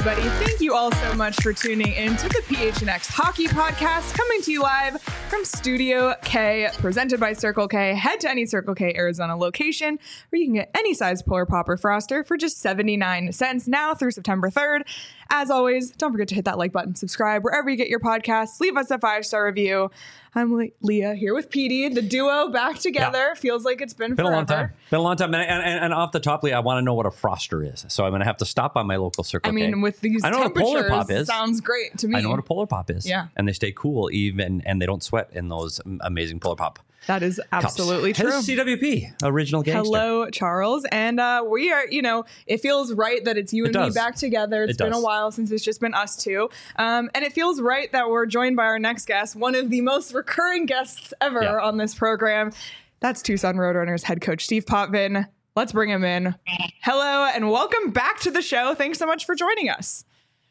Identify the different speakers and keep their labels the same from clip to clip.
Speaker 1: everybody. Thank you all so much for tuning in to the PHNX Hockey Podcast, coming to you live from Studio K, presented by Circle K. Head to any Circle K Arizona location where you can get any size Polar Pop or Froster for just 79 cents now through September 3rd. As always, don't forget to hit that like button, subscribe wherever you get your podcasts, leave us a 5-star review. I'm Leah here with Petey, the duo back together. Yeah. Feels like it's been forever.
Speaker 2: A long time. Been a long time. And off the top, Leah, I want to know what a Froster is. So I'm going to have to stop by my local Circle K.
Speaker 1: I mean, with these temperatures, what a Polar Pop is. Sounds great to me.
Speaker 2: I know what a Polar Pop is.
Speaker 1: Yeah.
Speaker 2: And they stay cool and they don't sweat in those amazing Polar Pop.
Speaker 1: That is absolutely true.
Speaker 2: It's CWP, original gangster.
Speaker 1: Hello, Charles. And we are, it feels right that it's you and me back together. It's been a while since it's just been us two. And it feels right that we're joined by our next guest, one of the most recurring guests ever on this program. That's Tucson Roadrunners head coach Steve Potvin. Let's bring him in. Hello, and welcome back to the show. Thanks so much for joining us.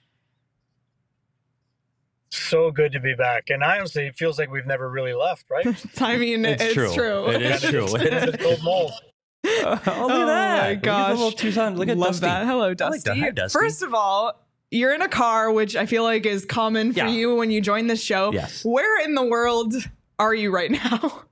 Speaker 3: So good to be back. And honestly, it feels like we've never really left, right?
Speaker 1: I mean, it's true.
Speaker 2: It is true.
Speaker 3: Look at
Speaker 2: that.
Speaker 1: Oh my gosh.
Speaker 2: Look at Tucson. Look at
Speaker 1: Love
Speaker 2: Dusty.
Speaker 1: That. Hello, Dusty.
Speaker 2: Hi, Dusty.
Speaker 1: First of all, you're in a car, which I feel like is common for you when you join this show.
Speaker 2: Yes.
Speaker 1: Where in the world are you right now?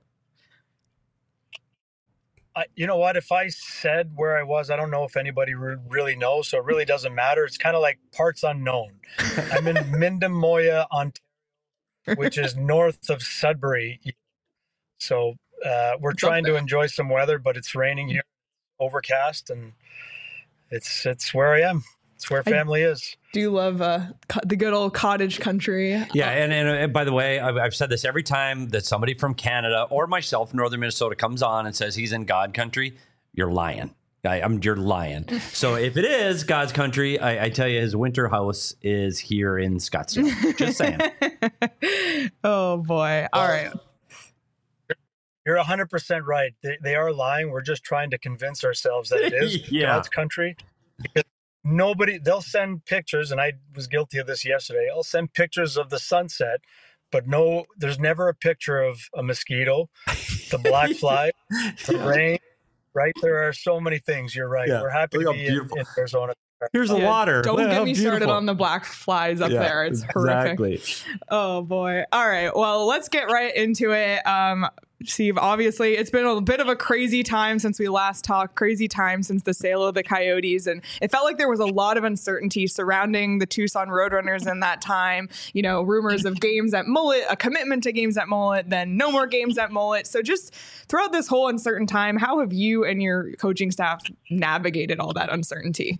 Speaker 3: You know what? If I said where I was, I don't know if anybody really knows, so it really doesn't matter. It's kind of like parts unknown. I'm in Mindamoya, Ontario, which is north of Sudbury. So we're trying to enjoy some weather, but it's raining here, overcast, and it's where I am. It's where family is.
Speaker 1: Do you love the good old cottage country?
Speaker 2: Yeah, and by the way, I've said this every time that somebody from Canada or myself, Northern Minnesota, comes on and says he's in God country, you're lying. You're lying. So if it is God's country, I tell you, his winter house is here in Scottsdale. Just saying.
Speaker 1: Oh, boy. All right.
Speaker 3: You're 100% right. They are lying. We're just trying to convince ourselves that it is God's country. Because they'll send pictures, and I was guilty of this yesterday. I'll send pictures of the sunset, but there's never a picture of a mosquito, the black fly, the rain, right? There are so many things. You're right. Yeah. We're happy to be in Arizona.
Speaker 2: Here's the water.
Speaker 1: Don't get me started on the black flies up there. It's horrific. Oh, boy. All right. Well, let's get right into it. Steve, obviously, it's been a bit of a crazy time since we last talked, crazy time since the sale of the Coyotes. And it felt like there was a lot of uncertainty surrounding the Tucson Roadrunners in that time. Rumors of games at Mullet, a commitment to games at Mullet, then no more games at Mullet. So just throughout this whole uncertain time, how have you and your coaching staff navigated all that uncertainty?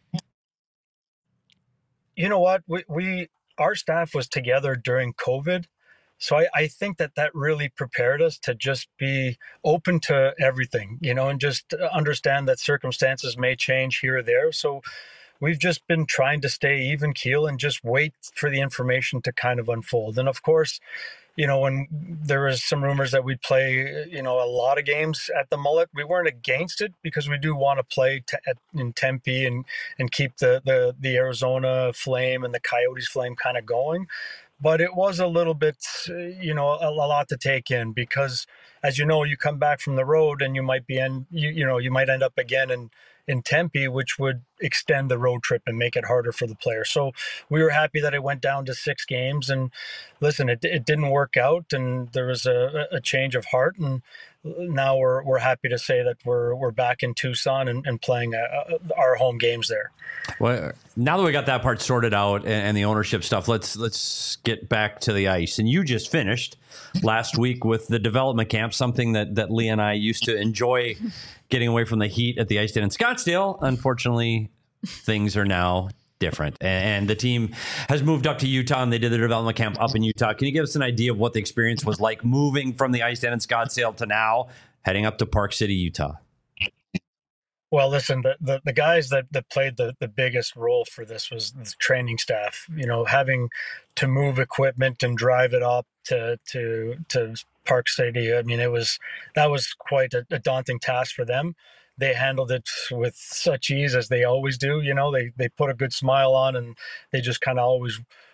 Speaker 3: You know what? Our staff was together during COVID. So I think that really prepared us to just be open to everything, and just understand that circumstances may change here or there. So we've just been trying to stay even keel and just wait for the information to kind of unfold. And of course, when there was some rumors that we'd play, a lot of games at the Mullet, we weren't against it because we do want to play in Tempe and keep the Arizona flame and the Coyotes flame kind of going. But it was a little bit, a lot to take in because, as you know, you come back from the road and you might you might end up again in Tempe, which would extend the road trip and make it harder for the players. So we were happy that it went down to 6 games. And listen, it didn't work out, and there was a change of heart. And now we're happy to say that we're back in Tucson and playing our home games there.
Speaker 2: Well, now that we got that part sorted out and the ownership stuff, let's get back to the ice. And you just finished last week with the development camp, something that Lee and I used to enjoy, getting away from the heat at the ice den in Scottsdale. Unfortunately, things are now different, and the team has moved up to Utah, and they did the development camp up in Utah. Can you give us an idea of what the experience was like moving from the ice den in Scottsdale to now heading up to Park City, Utah?
Speaker 3: Well, listen, the guys that played the biggest role for this was the training staff. Having to move equipment and drive it up to Park City. I mean, that was quite a daunting task for them. They handled it with such ease, as they always do. They put a good smile on, and they just kind of always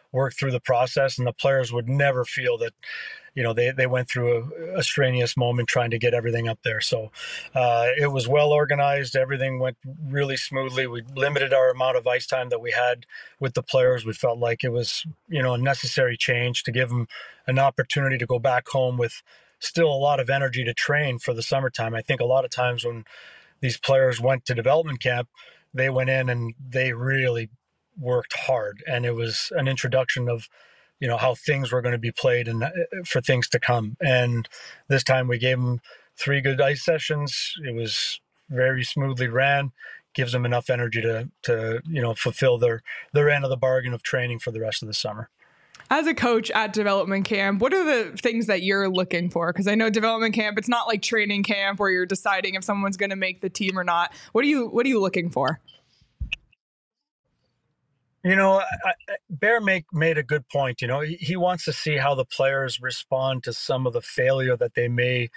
Speaker 3: work through the process, and the players would never feel that, they went through a strenuous moment trying to get everything up there. So it was well organized. Everything went really smoothly. We limited our amount of ice time that we had with the players. We felt like it was, a necessary change to give them an opportunity to go back home with still a lot of energy to train for the summertime. I think a lot of times when these players went to development camp, they went in and they really worked hard, and it was an introduction of how things were going to be played and for things to come. And this time we gave them 3 good ice sessions. It was very smoothly ran, gives them enough energy to fulfill their end of the bargain of training for the rest of the summer.
Speaker 1: As a coach at development camp, what are the things that you're looking for? Because I know development camp, it's not like training camp where you're deciding if someone's going to make the team or not. What are you looking for?
Speaker 3: Bear made a good point. He wants to see how the players respond to some of the failure that they may,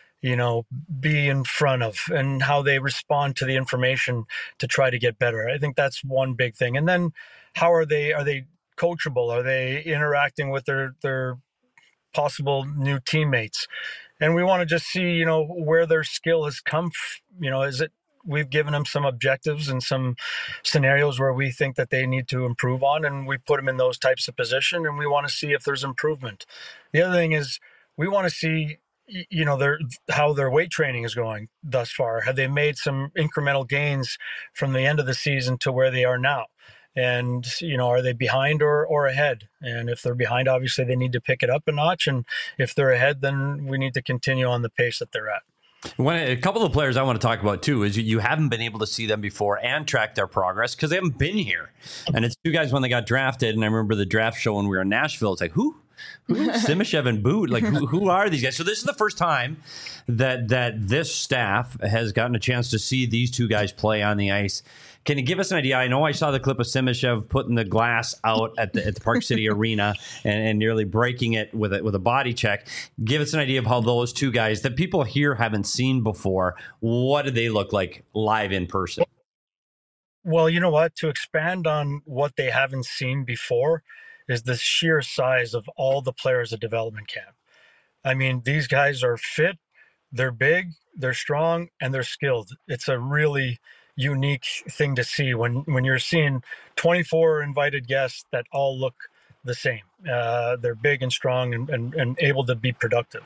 Speaker 3: be in front of, and how they respond to the information to try to get better. I think that's one big thing. And then how are they coachable? Are they interacting with their possible new teammates? And we want to just see, where their skill has come. Is it, we've given them some objectives and some scenarios where we think that they need to improve on, and we put them in those types of position, and we want to see if there's improvement. The other thing is we want to see, how their weight training is going thus far. Have they made some incremental gains from the end of the season to where they are now? And, are they behind or ahead? And if they're behind, obviously they need to pick it up a notch. And if they're ahead, then we need to continue on the pace that they're at.
Speaker 2: A couple of players I want to talk about too is you haven't been able to see them before and track their progress because they haven't been here. And it's 2 guys when they got drafted. And I remember the draft show when we were in Nashville. It's like, who? Simashev and Boot? Like, who are these guys? So this is the first time that this staff has gotten a chance to see these 2 guys play on the ice. Can you give us an idea? I know I saw the clip of Simashev putting the glass out at the Park City Arena and nearly breaking it with a body check. Give us an idea of how those 2 guys that people here haven't seen before, what do they look like live in person?
Speaker 3: Well, you know what? To expand on what they haven't seen before is the sheer size of all the players at development camp. I mean, these guys are fit, they're big, they're strong, and they're skilled. It's a really unique thing to see when you're seeing 24 invited guests that all look the same. They're big and strong and able to be productive.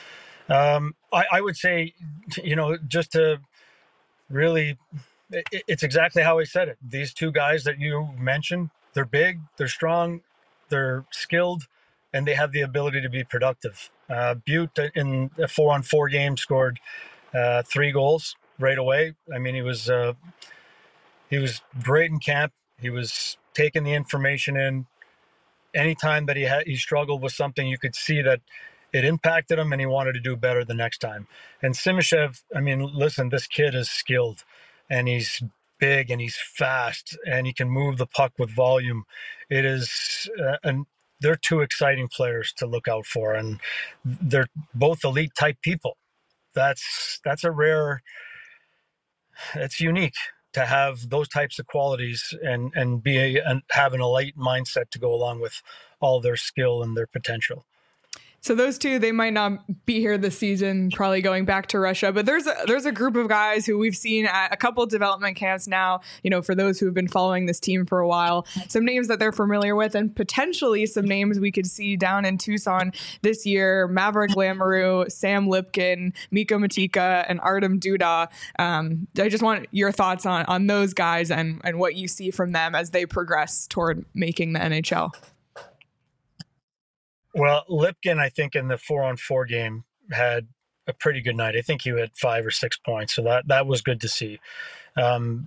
Speaker 3: I would say, just to really, it's exactly how I said it. These 2 guys that you mentioned, they're big, they're strong, they're skilled, and they have the ability to be productive. Butte in a 4-on-4 game scored 3 goals right away. I mean, he was great in camp. He was taking the information in. Anytime that he struggled with something, you could see that it impacted him and he wanted to do better the next time. And Simashev, I mean, listen, this kid is skilled and he's big and he's fast and he can move the puck with volume. It is, and they're 2 exciting players to look out for, and they're both elite type people. That's a rare. It's unique to have those types of qualities and have an elite mindset to go along with all their skill and their potential.
Speaker 1: So those 2, they might not be here this season, probably going back to Russia. But there's a group of guys who we've seen at a couple of development camps now, for those who have been following this team for a while, some names that they're familiar with and potentially some names we could see down in Tucson this year. Maverick Lamoureux, Sam Lipkin, Miko Matika, and Artem Duda. I just want your thoughts on those guys and what you see from them as they progress toward making the NHL.
Speaker 3: Well, Lipkin, I think in the 4-on-4 game had a pretty good night. I think he had 5 or 6 points. So that was good to see. Duda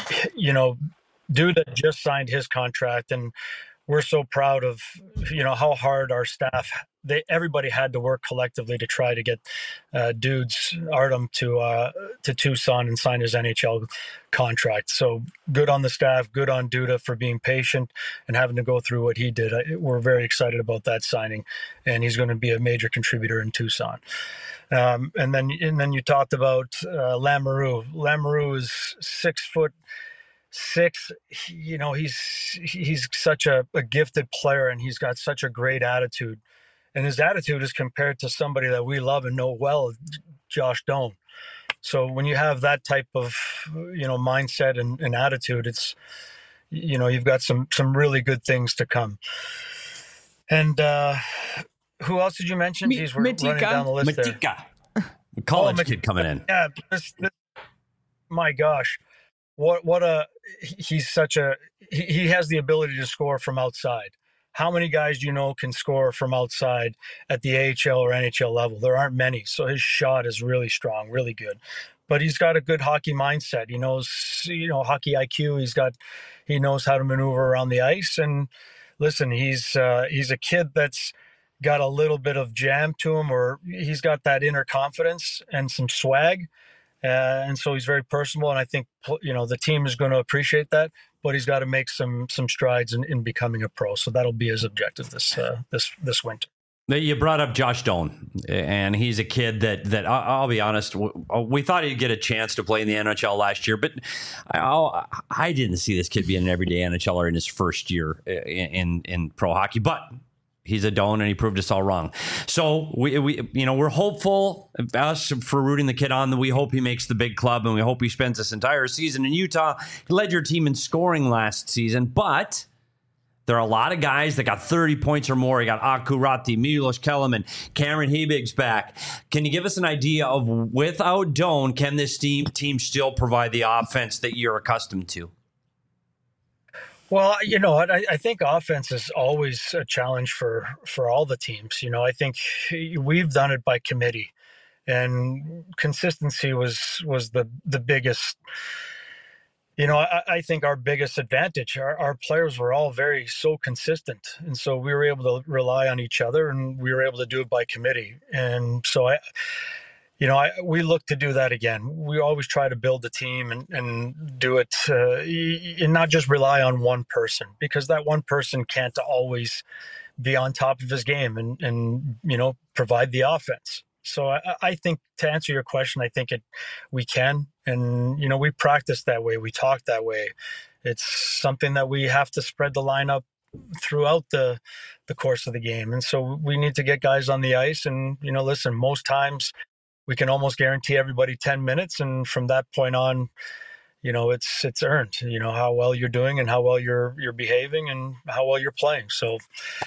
Speaker 3: just signed his contract, and we're so proud of, how hard our staff, everybody had to work collectively to try to get Artem to Tucson and sign his NHL contract. So good on the staff, good on Duda for being patient and having to go through what he did. We're very excited about that signing, and he's going to be a major contributor in Tucson. And then you talked about Lamoureux. Lamoureux is 6'6", 6, he's such a gifted player, and he's got such a great attitude. And his attitude is compared to somebody that we love and know well, Josh Doan. So when you have that type of, mindset and attitude, it's, you've got some really good things to come. And who else did you mention? We're running down the list there.
Speaker 2: College kid coming in.
Speaker 3: Yeah, my gosh, he's he has the ability to score from outside. How many guys do you know can score from outside at the AHL or NHL level? There aren't many. So his shot is really strong, really good. But he's got a good hockey mindset. He knows, hockey IQ. He knows how to maneuver around the ice. And listen, he's a kid that's got a little bit of jam to him, or he's got that inner confidence and some swag. And so he's very personable, and I think the team is going to appreciate that. But he's got to make some strides in becoming a pro. So that'll be his objective this winter.
Speaker 2: You brought up Josh Doan, and he's a kid that I'll be honest, we thought he'd get a chance to play in the NHL last year, but I didn't see this kid being an everyday NHLer in his first year in pro hockey. But he's a Doan, and he proved us all wrong. So we're hopeful for rooting the kid on. We hope he makes the big club, and we hope he spends this entire season in Utah. He led your team in scoring last season, but there are a lot of guys that got 30 points or more. You got Aku Ratti, Milos Kellerman, Cameron Hebig's back. Can you give us an idea of, without Doan, can this team still provide the offense that you're accustomed to?
Speaker 3: Well, you know what? I think offense is always a challenge for all the teams. I think we've done it by committee, and consistency was the biggest. I think our biggest advantage. Our players were all so consistent, and so we were able to rely on each other, and we were able to do it by committee. And so we look to do that again. We always try to build a team and do it and not just rely on one person, because that one person can't always be on top of his game and provide the offense. So I think, to answer your question, I think we can. And, we practice that way. We talk that way. It's something that we have to spread the lineup throughout the course of the game. And so we need to get guys on the ice. And, listen, most times we can almost guarantee everybody 10 minutes. And from that point on, it's earned, how well you're doing and how well you're behaving and how well you're playing. So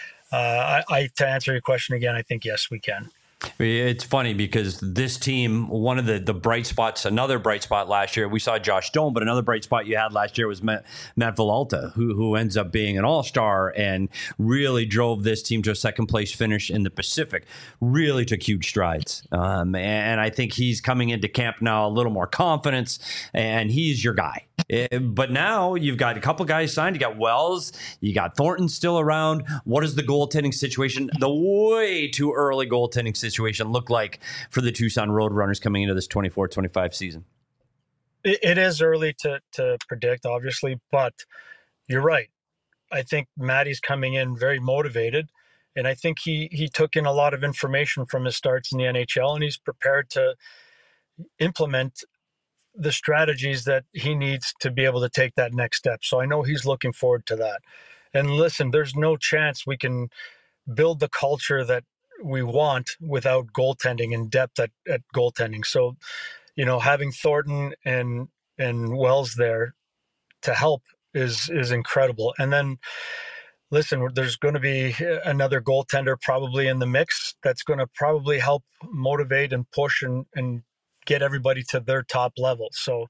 Speaker 3: to answer your question again, I think, yes, we can.
Speaker 2: It's funny because this team, one of the bright spots, another bright spot last year, we saw Josh Doan, but another bright spot you had last year was Matt Villalta, who ends up being an all-star and really drove this team to a second place finish in the Pacific, really took huge strides. And I think he's coming into camp now a little more confidence, and he's your guy. But now you've got a couple guys signed. You got Wells, you got Thornton still around. What is the goaltending situation, the way too early goaltending situation, look like for the Tucson Roadrunners coming into this 24-25 season?
Speaker 3: It is early to predict, obviously, but you're right. I think Matty's coming in very motivated, and I think he took in a lot of information from his starts in the NHL, and he's prepared to implement the strategies that he needs to be able to take that next step. So I know he's looking forward to that. And listen, there's no chance we can build the culture that we want without goaltending and depth at goaltending. So, having Thornton and Wells there to help is incredible. And then, listen, there's going to be another goaltender probably in the mix that's going to probably help motivate and push and get everybody to their top level. So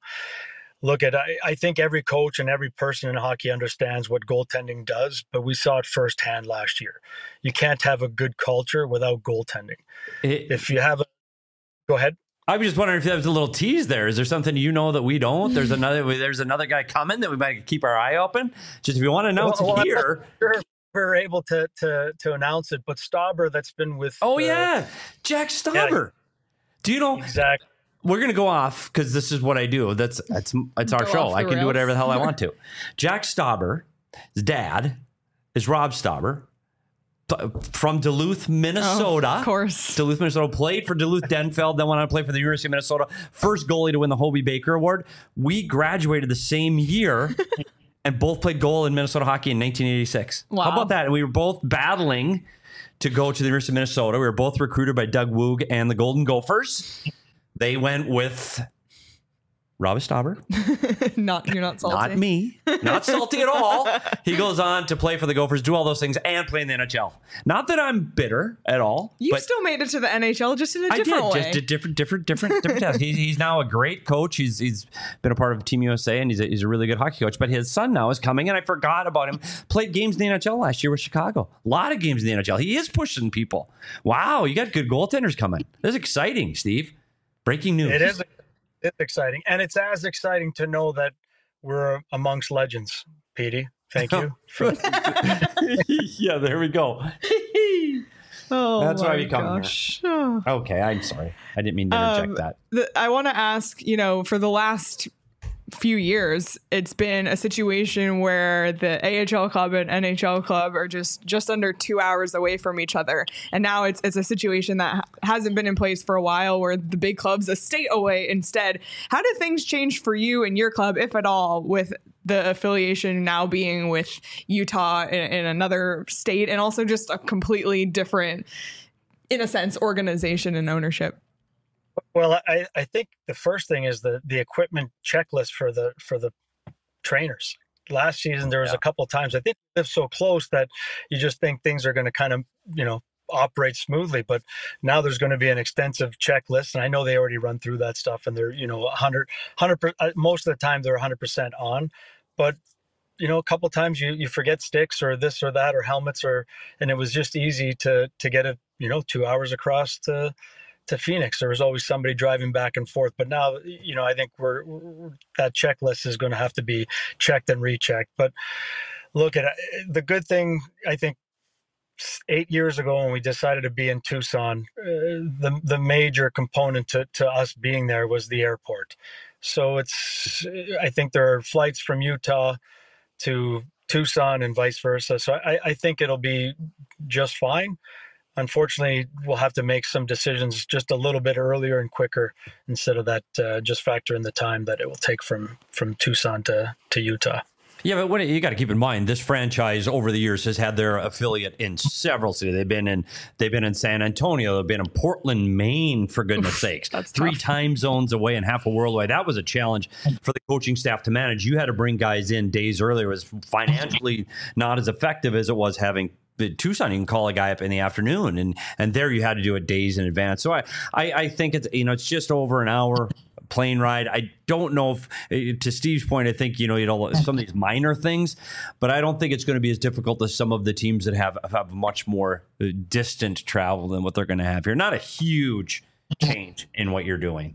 Speaker 3: I think every coach and every person in hockey understands what goaltending does, but we saw it firsthand last year. You can't have a good culture without goaltending. If you have go ahead.
Speaker 2: I was just wondering if there was a little tease there. Is there something that we don't? There's another guy coming that we might keep our eye open. Just if you want to announce it here.
Speaker 3: Sure. We're able to announce it, but Stauber, that's been with.
Speaker 2: Jack Stauber. Yeah. Do you know
Speaker 3: exactly?
Speaker 2: We're going to go off because this is what I do. It's our show. I can do whatever the hell I want to. Jack Stauber's dad is Rob Stauber, from Duluth, Minnesota.
Speaker 1: Of course.
Speaker 2: Duluth, Minnesota, played for Duluth Denfeld, then went on to play for the University of Minnesota. First goalie to win the Hobey Baker Award. We graduated the same year and both played goal in Minnesota hockey in 1986.
Speaker 1: Wow.
Speaker 2: How about that? And we were both battling to go to the University of Minnesota. We were both recruited by Doug Woog and the Golden Gophers. They went with Robbie Stauber.
Speaker 1: You're not salty.
Speaker 2: Not me. Not salty at all. He goes on to play for the Gophers, do all those things, and play in the NHL. Not that I'm bitter at all.
Speaker 1: You still made it to the NHL, just in a different way.
Speaker 2: Just a different task. He's now a great coach. He's been a part of Team USA, and he's a really good hockey coach. But his son now is coming, and I forgot about him. Played games in the NHL last year with Chicago. A lot of games in the NHL. He is pushing people. Wow, you got good goaltenders coming. This is exciting, Steve. Breaking news.
Speaker 3: It is. It's exciting. And it's as exciting to know that we're amongst legends, Petey. Thank you.
Speaker 2: Yeah, there we go. That's why we come here. Okay, I'm sorry. I didn't mean to interject that.
Speaker 1: I want to ask, for the last few years, it's been a situation where the AHL club and NHL club are just under 2 hours away from each other. And now it's a situation that hasn't been in place for a while, where the big club's a state away instead. How do things change for you and your club, if at all, with the affiliation now being with Utah in another state, and also just a completely different, in a sense, organization and ownership?
Speaker 3: Well, I think the first thing is the equipment checklist for the trainers. Last season, there was a couple of times, I think we lived so close that you just think things are going to kind of, operate smoothly. But now there's going to be an extensive checklist. And I know they already run through that stuff, and they're, 100%, most of the time they're 100% on. But, a couple of times you forget sticks or this or that or helmets, and it was just easy to get it, 2 hours across to Phoenix. There was always somebody driving back and forth, but now, I think that checklist is going to have to be checked and rechecked. But look at the good thing, I think 8 years ago when we decided to be in Tucson, the major component to us being there was the airport. So I think there are flights from Utah to Tucson and vice versa. So I think it'll be just fine. Unfortunately, we'll have to make some decisions just a little bit earlier and quicker, instead of that just factor in the time that it will take from Tucson to Utah.
Speaker 2: Yeah, but you got to keep in mind, this franchise over the years has had their affiliate in several cities. They've been in San Antonio. They've been in Portland, Maine, for goodness sakes.
Speaker 1: That's
Speaker 2: 3
Speaker 1: tough.
Speaker 2: time zones away and half a world away. That was a challenge for the coaching staff to manage. You had to bring guys in days earlier. It was financially not as effective as it was having Tucson. You can call a guy up in the afternoon, and there you had to do it days in advance. So I think it's just over an hour plane ride. I don't know if, to Steve's point, I think some of these minor things, but I don't think it's going to be as difficult as some of the teams that have much more distant travel than what they're going to have here. Not a huge change in what you're doing.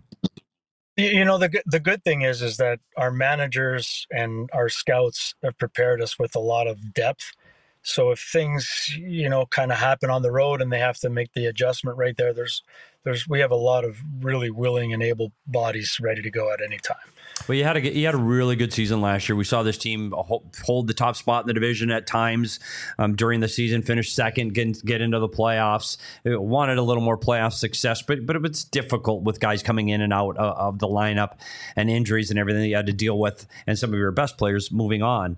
Speaker 3: The good thing is that our managers and our scouts have prepared us with a lot of depth. So if things, kind of happen on the road and they have to make the adjustment right there, we have a lot of really willing and able bodies ready to go at any time.
Speaker 2: Well, you had a really good season last year. We saw this team hold the top spot in the division at times during the season, finish second, get into the playoffs. It wanted a little more playoff success, but it's difficult with guys coming in and out of the lineup and injuries and everything that you had to deal with, and some of your best players moving on.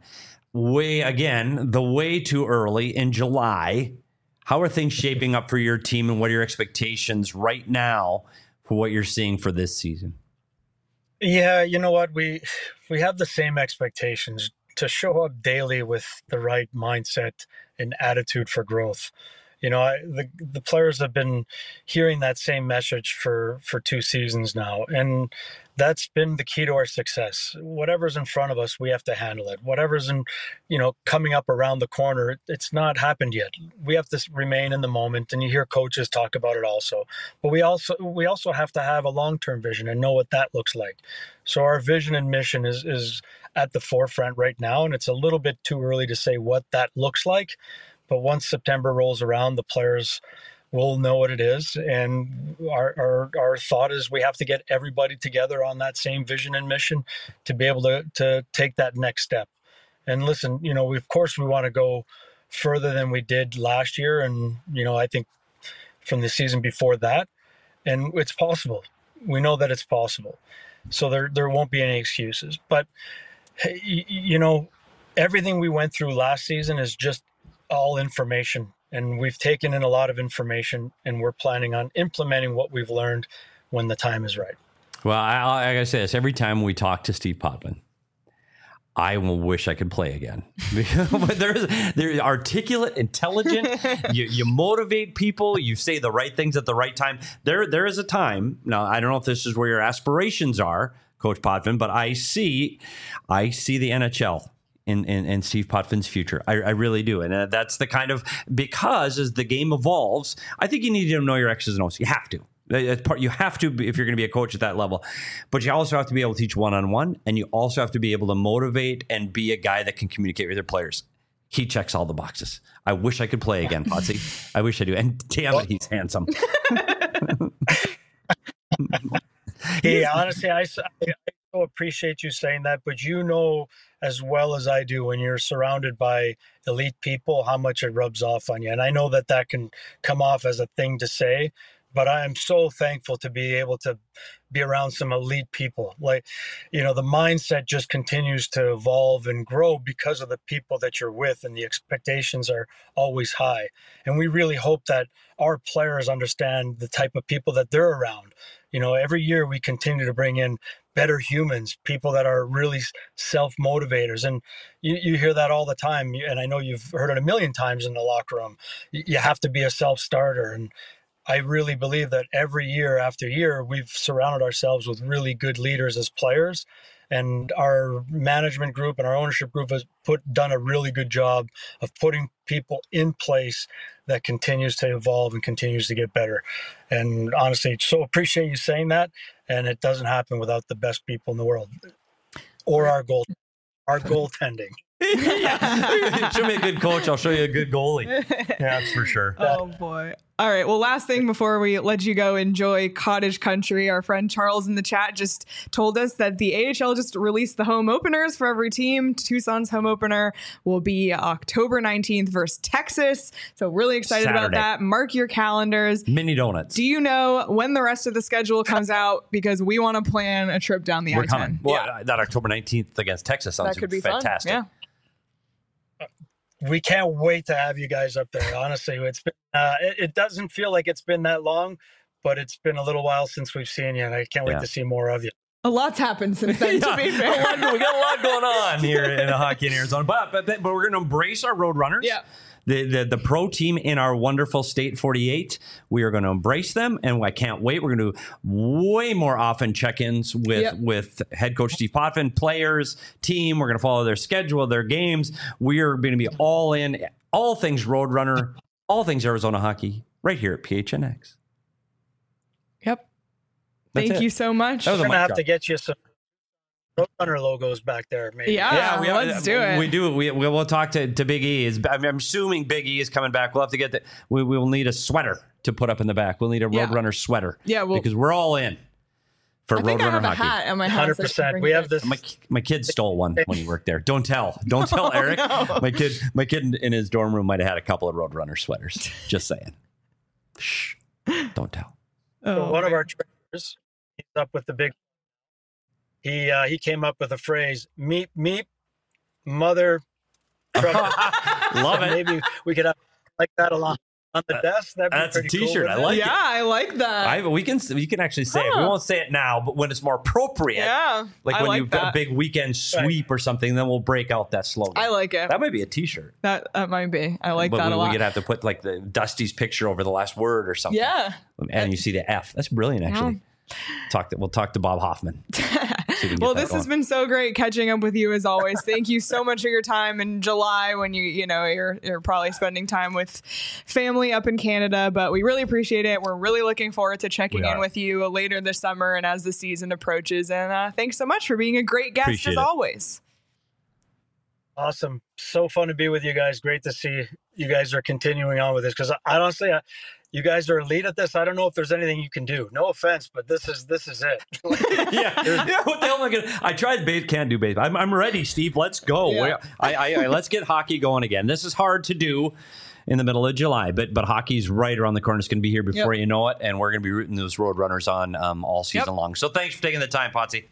Speaker 2: Way too early in July. How are things shaping up for your team, and what are your expectations right now for what you're seeing for this season?
Speaker 3: Yeah, you know what? We have the same expectations, to show up daily with the right mindset and attitude for growth. The players have been hearing that same message for 2 seasons now, and that's been the key to our success. Whatever's in front of us, we have to handle it. Whatever's coming up around the corner, it's not happened yet. We have to remain in the moment, and you hear coaches talk about it also. But we also have to have a long-term vision and know what that looks like. So our vision and mission is at the forefront right now, and it's a little bit too early to say what that looks like. But once September rolls around, the players will know what it is. And our thought is we have to get everybody together on that same vision and mission to be able to take that next step. And listen, of course we want to go further than we did last year. And, I think from the season before that, and it's possible. We know that it's possible. So there won't be any excuses. But, everything we went through last season is just all information. And we've taken in a lot of information, and we're planning on implementing what we've learned when the time is right.
Speaker 2: Well, I gotta say this. Every time we talk to Steve Potvin, I will wish I could play again. They're articulate, intelligent. You motivate people. You say the right things at the right time. There is a time. Now, I don't know if this is where your aspirations are, Coach Potvin, but I see the NHL in Steve Potvin's future. I really do. And that's the kind of, because as the game evolves, I think you need to know your X's and O's. You have to. You have to, if you're going to be a coach at that level, but you also have to be able to teach one-on-one, and you also have to be able to motivate and be a guy that can communicate with your players. He checks all the boxes. I wish I could play again, Potsy. I wish I do. And damn it, he's handsome.
Speaker 3: Hey, honestly, I so appreciate you saying that, but as well as I do, when you're surrounded by elite people, how much it rubs off on you. And I know that can come off as a thing to say, but I am so thankful to be able to be around some elite people. Like, the mindset just continues to evolve and grow because of the people that you're with, and the expectations are always high. And we really hope that our players understand the type of people that they're around. Every year we continue to bring in better humans, people that are really self-motivators. And you hear that all the time. And I know you've heard it a million times in the locker room. You have to be a self-starter. And I really believe that every year after year, we've surrounded ourselves with really good leaders as players. And our management group and our ownership group has done a really good job of putting people in place that continues to evolve and continues to get better. And honestly, so appreciate you saying that. And it doesn't happen without the best people in the world or our goaltending.
Speaker 2: Yeah. Show me a good coach, I'll show you a good goalie. Yeah, that's for sure.
Speaker 1: Oh boy. All right. Well, last thing before we let you go enjoy cottage country, our friend Charles in the chat just told us that the AHL just released the home openers for every team. Tucson's home opener will be October 19th versus Texas. So really excited about that. Mark your calendars.
Speaker 2: Mini donuts.
Speaker 1: Do you know when the rest of the schedule comes out? Because we want to plan a trip down the I-10.
Speaker 2: Coming. Well, that October 19th against Texas sounds fantastic.
Speaker 1: Fun.
Speaker 3: Yeah. We can't wait to have you guys up there. Honestly, it's been, it doesn't feel like it's been that long, but it's been a little while since we've seen you, and I can't wait to see more of you.
Speaker 1: A lot's happened since then, to be fair.
Speaker 2: We got a lot going on here in hockey in Arizona, but we're going to embrace our Roadrunners.
Speaker 1: Yeah.
Speaker 2: The pro team in our wonderful State 48, we are going to embrace them, and I can't wait. We're going to do way more often check-ins with head coach Steve Potvin, players, team. We're going to follow their schedule, their games. We are going to be all in, all things Roadrunner, all things Arizona hockey, right here at PHNX.
Speaker 1: Yep. Thank you so much.
Speaker 3: We're going to have to get you some Roadrunner logos back there, maybe.
Speaker 1: Yeah, let's do it.
Speaker 2: We do. We'll talk to Big E. I'm assuming Big E is coming back. We'll have to get that. We will need a sweater to put up in the back. We'll need a Roadrunner sweater.
Speaker 1: Yeah,
Speaker 2: because we're all in for Roadrunner hockey.
Speaker 1: I hat at my house.
Speaker 3: 100%. We have this.
Speaker 2: My kid stole one when he worked there. Don't tell, Eric. No. My kid in his dorm room might have had a couple of Roadrunner sweaters. Just saying. Shh. Don't tell.
Speaker 3: So one of our trainers, he's up with the big. He came up with a phrase, meep, meep, mother trucker.
Speaker 2: Love it.
Speaker 3: Maybe we could have like that along on the desk.
Speaker 2: That's a t-shirt.
Speaker 3: Cool,
Speaker 2: I like it.
Speaker 1: Yeah, I like that.
Speaker 2: We can actually say it. We won't say it now, but when it's more appropriate.
Speaker 1: Yeah.
Speaker 2: Like when you've got a big weekend sweep or something, then we'll break out that slogan.
Speaker 1: I like it.
Speaker 2: That might be a t-shirt.
Speaker 1: That might be. I like that a lot.
Speaker 2: We could have to put like the Dusty's picture over the last word or something.
Speaker 1: Yeah.
Speaker 2: And you see the F. That's brilliant, actually. We'll talk to Bob Hoffman.
Speaker 1: Well, this has been so great catching up with you as always. Thank you so much for your time in July when you're probably spending time with family up in Canada, but we really appreciate it. We're really looking forward to checking in with you later this summer and as the season approaches. And thanks so much for being a great guest as always.
Speaker 3: Awesome. So fun to be with you guys. Great to see you guys are continuing on with this, because I honestly, you guys are elite at this. I don't know if there's anything you can do. No offense, but this is it.
Speaker 2: Yeah. What the hell am I gonna? I tried base, can't do base. I'm ready, Steve. Let's go.
Speaker 1: Yeah.
Speaker 2: Let's get hockey going again. This is hard to do in the middle of July, but hockey's right around the corner. It's going to be here before you know it, and we're going to be rooting those Roadrunners on all season long. So thanks for taking the time, Potsy.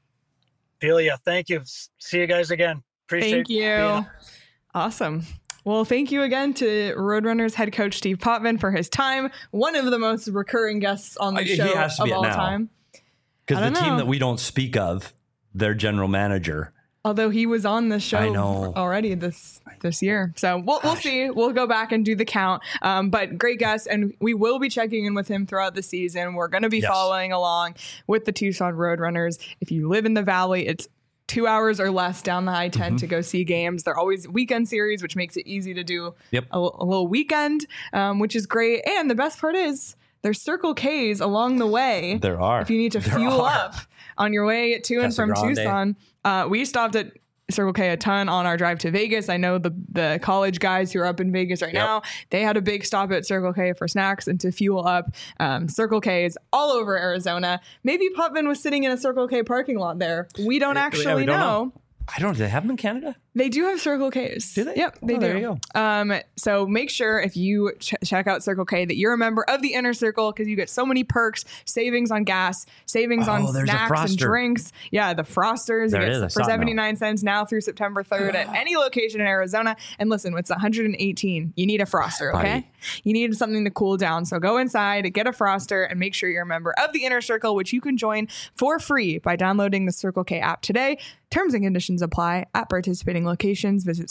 Speaker 3: Delia, thank you. See you guys again.
Speaker 1: Thank you. Awesome. Well, thank you again to Roadrunners head coach Steve Potvin for his time. One of the most recurring guests on the show of all time.
Speaker 2: Because the team that we don't speak of, their general manager.
Speaker 1: Although he was on the show already this year. So we'll see. We'll go back and do the count. But great guest. And we will be checking in with him throughout the season. We're going to be following along with the Tucson Roadrunners. If you live in the Valley, it's 2 hours or less down the I-10 to go see games. They're always weekend series, which makes it easy to do a little weekend, which is great. And the best part is there's Circle K's along the way.
Speaker 2: There are.
Speaker 1: If you need to fuel up on your way to and from Tucson. We stopped at Circle K a ton on our drive to Vegas. I know the college guys who are up in Vegas right now, they had a big stop at Circle K for snacks and to fuel up. Circle K is all over Arizona. Maybe Potvin was sitting in a Circle K parking lot there. We don't actually know.
Speaker 2: I don't know. Do they have them in Canada?
Speaker 1: They do have Circle K's.
Speaker 2: Do they?
Speaker 1: Yep, they do.
Speaker 2: There you
Speaker 1: go. So make sure if you check out Circle K that you're a member of the Inner Circle, because you get so many perks, savings on gas, savings on snacks and drinks. Yeah, the Frosters.
Speaker 2: There
Speaker 1: you get for 79 cents now through September 3rd at any location in Arizona. And listen, it's 118. You need a Froster, okay? You need something to cool down. So go inside, get a Froster, and make sure you're a member of the Inner Circle, which you can join for free by downloading the Circle K app today. Terms and conditions apply at participating locations. Visit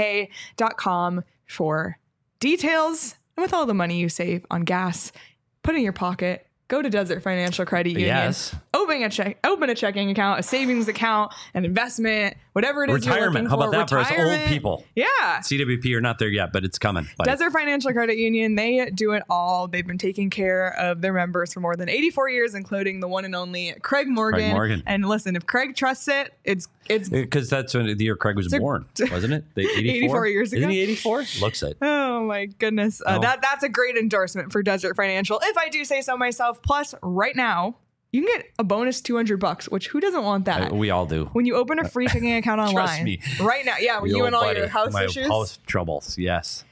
Speaker 1: CircleK.com for details. And with all the money you save on gas, put in your pocket, go to Desert Financial Credit Union.
Speaker 2: Yes.
Speaker 1: Open a checking account, a savings account, an investment, whatever it is you're looking for.
Speaker 2: How about that for us old people?
Speaker 1: Yeah.
Speaker 2: CWP are not there yet, but it's coming.
Speaker 1: Desert Financial Credit Union, they do it all. They've been taking care of their members for more than 84 years, including the one and only Craig Morgan. And listen, if Craig trusts it, it's
Speaker 2: because that's when the year Craig was born, wasn't it?
Speaker 1: 84 years ago.
Speaker 2: Isn't he 84? Looks it.
Speaker 1: Oh my goodness. That's a great endorsement for Desert Financial, if I do say so myself. Plus, right now, you can get a bonus $200, which who doesn't want that?
Speaker 2: We all do.
Speaker 1: When you open a free checking account online.
Speaker 2: Trust me.
Speaker 1: Right now. Yeah, you and all your house issues.
Speaker 2: House troubles, yes.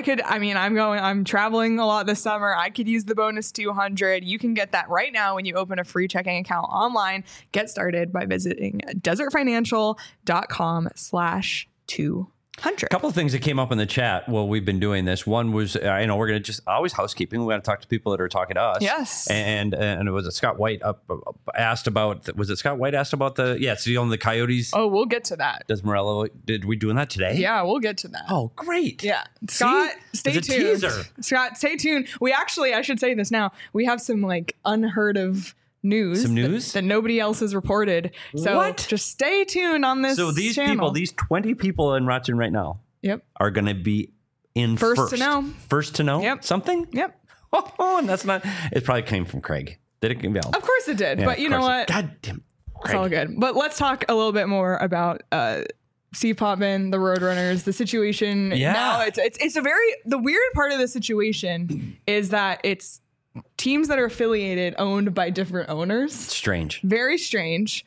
Speaker 1: I'm traveling a lot this summer. I could use the bonus 200. You can get that right now when you open a free checking account online. Get started by visiting desertfinancial.com/200.
Speaker 2: A couple of things that came up in the chat while we've been doing this. One was, we're going to just always housekeeping. We got to talk to people that are talking to us.
Speaker 1: Yes.
Speaker 2: And it was Scott White asked about, was it Scott White asked about the Coyotes?
Speaker 1: Oh, we'll get to that.
Speaker 2: Does Morello, did we doing that today?
Speaker 1: Yeah, we'll get to that.
Speaker 2: Oh, great.
Speaker 1: Yeah. Scott, stay tuned.
Speaker 2: Teaser.
Speaker 1: Scott, stay tuned. We actually, I should say this now, we have some unheard of news.
Speaker 2: Some news?
Speaker 1: That nobody else has reported. So just stay tuned on this
Speaker 2: So these
Speaker 1: channel.
Speaker 2: people, these 20 people in Rochester right now are going to be in first
Speaker 1: to know.
Speaker 2: First to know something?
Speaker 1: Yep.
Speaker 2: Oh, and that's not, it probably came from Craig. Did it? Of
Speaker 1: course it did. But you know what?
Speaker 2: God damn. Craig.
Speaker 1: It's all good. But let's talk a little bit more about Steve Potvin, the Roadrunners, the situation.
Speaker 2: Yeah.
Speaker 1: Now it's the weird part of the situation is that it's teams that are affiliated owned by different owners.
Speaker 2: Strange.
Speaker 1: Very strange.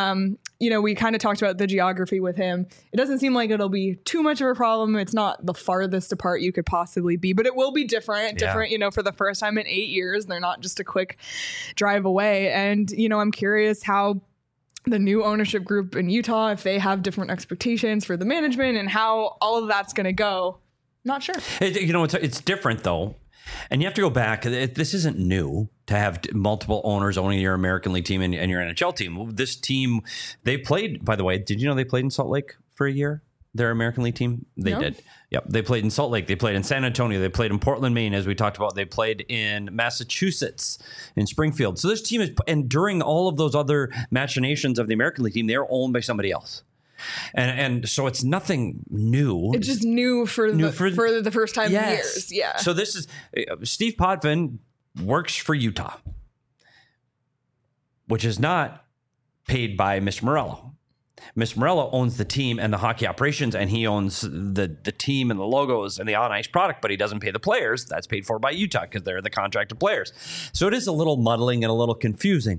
Speaker 1: We kind of talked about the geography with him. It doesn't seem like it'll be too much of a problem. It's not the farthest apart you could possibly be, but it will be different, for the first time in 8 years. They're not just a quick drive away. And, I'm curious how the new ownership group in Utah, if they have different expectations for the management and how all of that's going to go. Not sure.
Speaker 2: It's different though. And you have to go back. This isn't new to have multiple owners owning your American League team and your NHL team. This team, they played, by the way, did you know they played in Salt Lake for a year? Their American League team? They did. Yep. They played in Salt Lake. They played in San Antonio. They played in Portland, Maine, as we talked about. They played in Massachusetts, in Springfield. So this team is, and during all of those other machinations of the American League team, they're owned by somebody else. And so it's nothing new.
Speaker 1: It's just new for the first time in years. Yeah.
Speaker 2: So this is Steve Potvin works for Utah, which is not paid by Mr. Morello. Mr. Morello owns the team and the hockey operations, and he owns the team and the logos and the on ice product, but he doesn't pay the players. That's paid for by Utah because they're the contracted players. So it is a little muddling and a little confusing.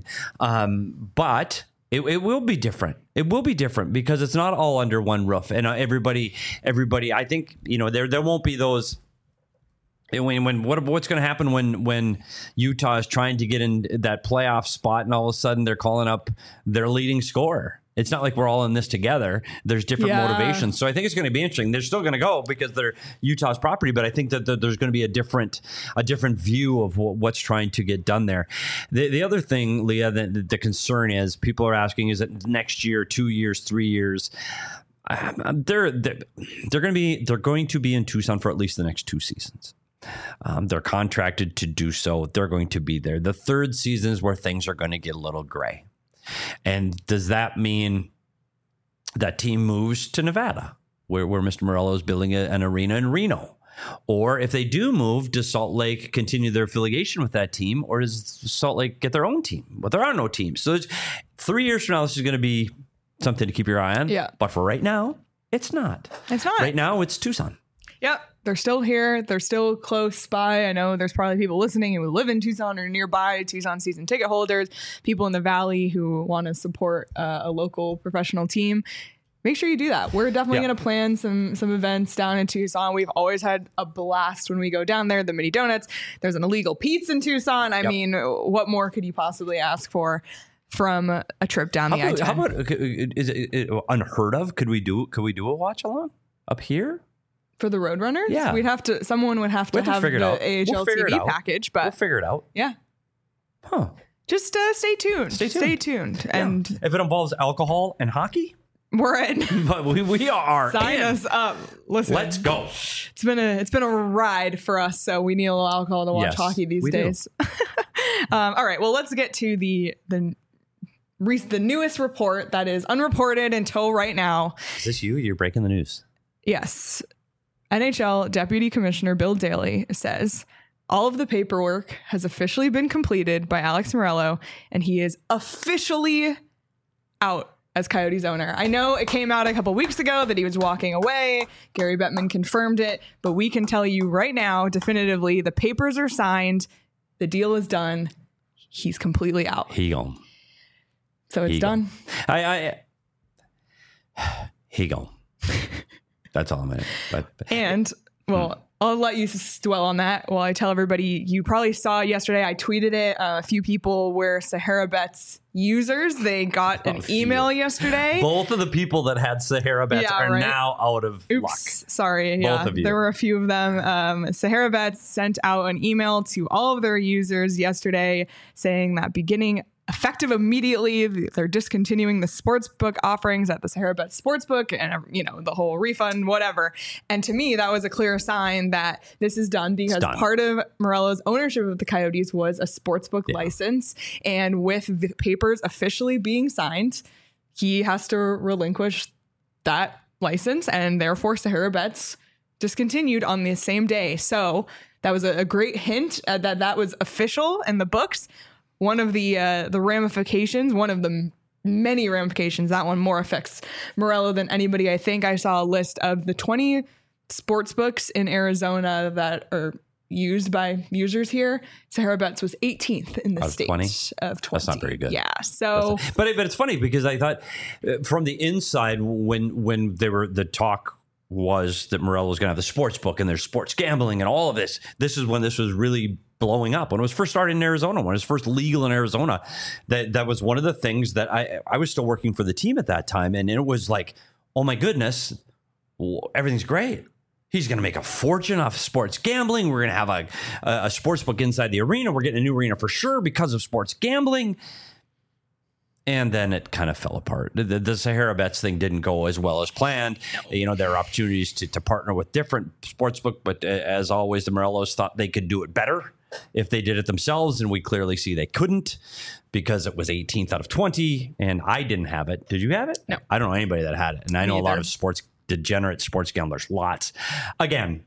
Speaker 2: But it will be different. It will be different because it's not all under one roof. And everybody, I think, there won't be those. What's going to happen when Utah is trying to get in that playoff spot and all of a sudden they're calling up their leading scorer? It's not like we're all in this together. There's different motivations. So I think it's going to be interesting. They're still going to go because they're Utah's property, but I think that there's going to be a different view of what's trying to get done there. The other thing, Leah, the concern is people are asking, is it next year, 2 years, 3 years? They're going to be in Tucson for at least the next 2 seasons. They're contracted to do so. They're going to be there. The third season is where things are going to get a little gray. And does that mean that team moves to Nevada, where Mr. Morello is building an arena in Reno? Or if they do move, does Salt Lake continue their affiliation with that team? Or does Salt Lake get their own team? Well, there are no teams. So 3 years from now, this is going to be something to keep your eye on.
Speaker 1: Yeah.
Speaker 2: But for right now, it's not.
Speaker 1: It's not.
Speaker 2: Right now, it's Tucson.
Speaker 1: Yep. They're still here. They're still close by. I know there's probably people listening who live in Tucson or nearby, Tucson season ticket holders, people in the Valley who want to support a local professional team. Make sure you do that. We're definitely going to plan some events down in Tucson. We've always had a blast when we go down there. The Mini Donuts. There's an illegal pizza in Tucson. I mean, what more could you possibly ask for from a trip down the I-10?
Speaker 2: How about, is it unheard of? Could we do a watch along up here?
Speaker 1: For the Roadrunners?
Speaker 2: Yeah.
Speaker 1: Someone would have to have the AHL TV package, but
Speaker 2: we'll figure it out.
Speaker 1: Yeah.
Speaker 2: Huh.
Speaker 1: Just stay tuned. Stay tuned.
Speaker 2: Yeah.
Speaker 1: And
Speaker 2: if it involves alcohol and hockey,
Speaker 1: we're in.
Speaker 2: But we are.
Speaker 1: Sign us up. Listen.
Speaker 2: Let's go.
Speaker 1: It's been a ride for us, so we need a little alcohol to watch hockey these days. All right. Well, let's get to the newest report that is unreported until right now.
Speaker 2: Is this you? You're breaking the news.
Speaker 1: Yes. NHL Deputy Commissioner Bill Daly says all of the paperwork has officially been completed by Alex Morello, and he is officially out as Coyotes owner. I know it came out a couple weeks ago that he was walking away. Gary Bettman confirmed it, but we can tell you right now, definitively, the papers are signed. The deal is done. He's completely out.
Speaker 2: He gone.
Speaker 1: So it's done.
Speaker 2: He gone. That's all I'm in.
Speaker 1: And, I'll let you dwell on that while I tell everybody. You probably saw yesterday, I tweeted it. A few people were Sahara Bets users. They got an email yesterday.
Speaker 2: Both of the people that had Sahara Bets are now out of luck.
Speaker 1: Sorry. Both of you. There were a few of them. Sahara Bets sent out an email to all of their users yesterday saying that effective immediately, they're discontinuing the sportsbook offerings at the Sahara Bet Sportsbook and, the whole refund, whatever. And to me, that was a clear sign that this is done because part of Morello's ownership of the Coyotes was a sportsbook license. And with the papers officially being signed, he has to relinquish that license, and therefore Sahara Bets discontinued on the same day. So that was a great hint that was official in the books. One of the ramifications, one of the many ramifications, that one more affects Morello than anybody. I think I saw a list of the 20 sports books in Arizona that are used by users here. Sahara Bets was 18th in the state
Speaker 2: 20?
Speaker 1: Of 20.
Speaker 2: That's not very good.
Speaker 1: Yeah. So,
Speaker 2: but it's funny because I thought from the inside when the talk was that Morello was going to have the sports book and there's sports gambling and all of this. This is when this was really blowing up. When it was first started in Arizona, when it was first legal in Arizona, that was one of the things that I was still working for the team at that time. And it was like, oh my goodness, everything's great. He's going to make a fortune off sports gambling. We're going to have a sports book inside the arena. We're getting a new arena for sure because of sports gambling. And then it kind of fell apart. The Sahara Bets thing didn't go as well as planned. There are opportunities to partner with different sportsbook, but as always, the Morellos thought they could do it better if they did it themselves, and we clearly see they couldn't because it was 18th out of 20, and I didn't have it. Did you have it?
Speaker 1: No.
Speaker 2: I don't know anybody that had it, and I know a lot of degenerate sports gamblers, lots. Again,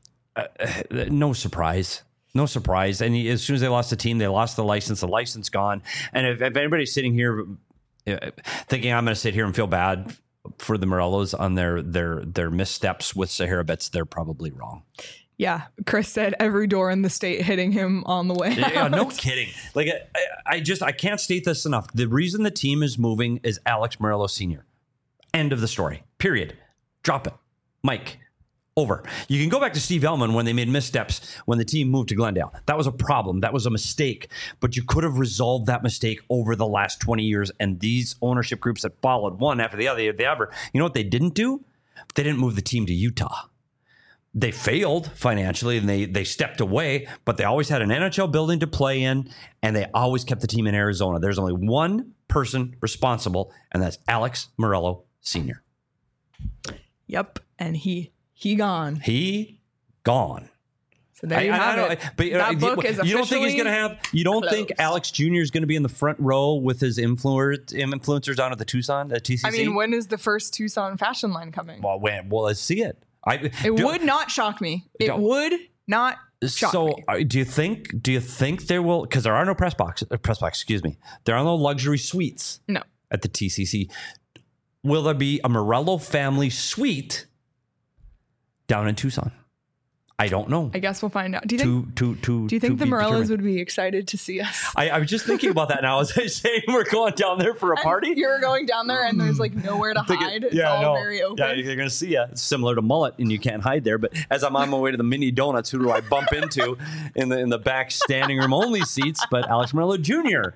Speaker 2: no surprise. No surprise. And as soon as they lost the team, they lost the license gone. And if anybody's sitting here thinking I'm going to sit here and feel bad for the Morellos on their missteps with Sahara bets, they're probably wrong.
Speaker 1: Yeah, Chris said every door in the state hitting him on the way.
Speaker 2: Yeah, no kidding. Like I can't state this enough. The reason the team is moving is Alex Meruelo Sr. End of the story. Period. Drop it. Mike. Over. You can go back to Steve Ellman when they made missteps when the team moved to Glendale. That was a problem. That was a mistake. But you could have resolved that mistake over the last 20 years. And these ownership groups that followed one after the other, you know what they didn't do? They didn't move the team to Utah. They failed financially and they stepped away, but they always had an NHL building to play in, and they always kept the team in Arizona. There's only one person responsible, and that's Alex Meruelo Sr.
Speaker 1: Yep, and he gone.
Speaker 2: He gone.
Speaker 1: So there you have it.
Speaker 2: But
Speaker 1: that book is officially
Speaker 2: you don't think he's going to have? You don't think Alex Jr. is going to be in the front row with his influencers down at the Tucson, the TCC?
Speaker 1: I mean, when is the first Tucson fashion line coming?
Speaker 2: Well, let's see it.
Speaker 1: It would not shock me. It would not shock me.
Speaker 2: Do you think there will? Because there are no press box. Excuse me. There are no luxury suites.
Speaker 1: No.
Speaker 2: At the TCC, will there be a Meruelo family suite down in Tucson? I don't know.
Speaker 1: I guess we'll find out. Do you think the Morellos
Speaker 2: determined.
Speaker 1: Would be excited to see us?
Speaker 2: I was just thinking about that now. As I say, we're going down there for a party.
Speaker 1: You're going down there and there's like nowhere to hide. It's all very open.
Speaker 2: Yeah, you're going to see you. It's similar to Mullet and you can't hide there. But as I'm on my way to the Mini Donuts, who do I bump into in the back standing room only seats? But Alex Meruelo Jr.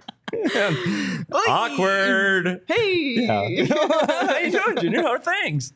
Speaker 2: Awkward.
Speaker 1: Hey.
Speaker 2: Yeah. How you doing, Junior? How are things?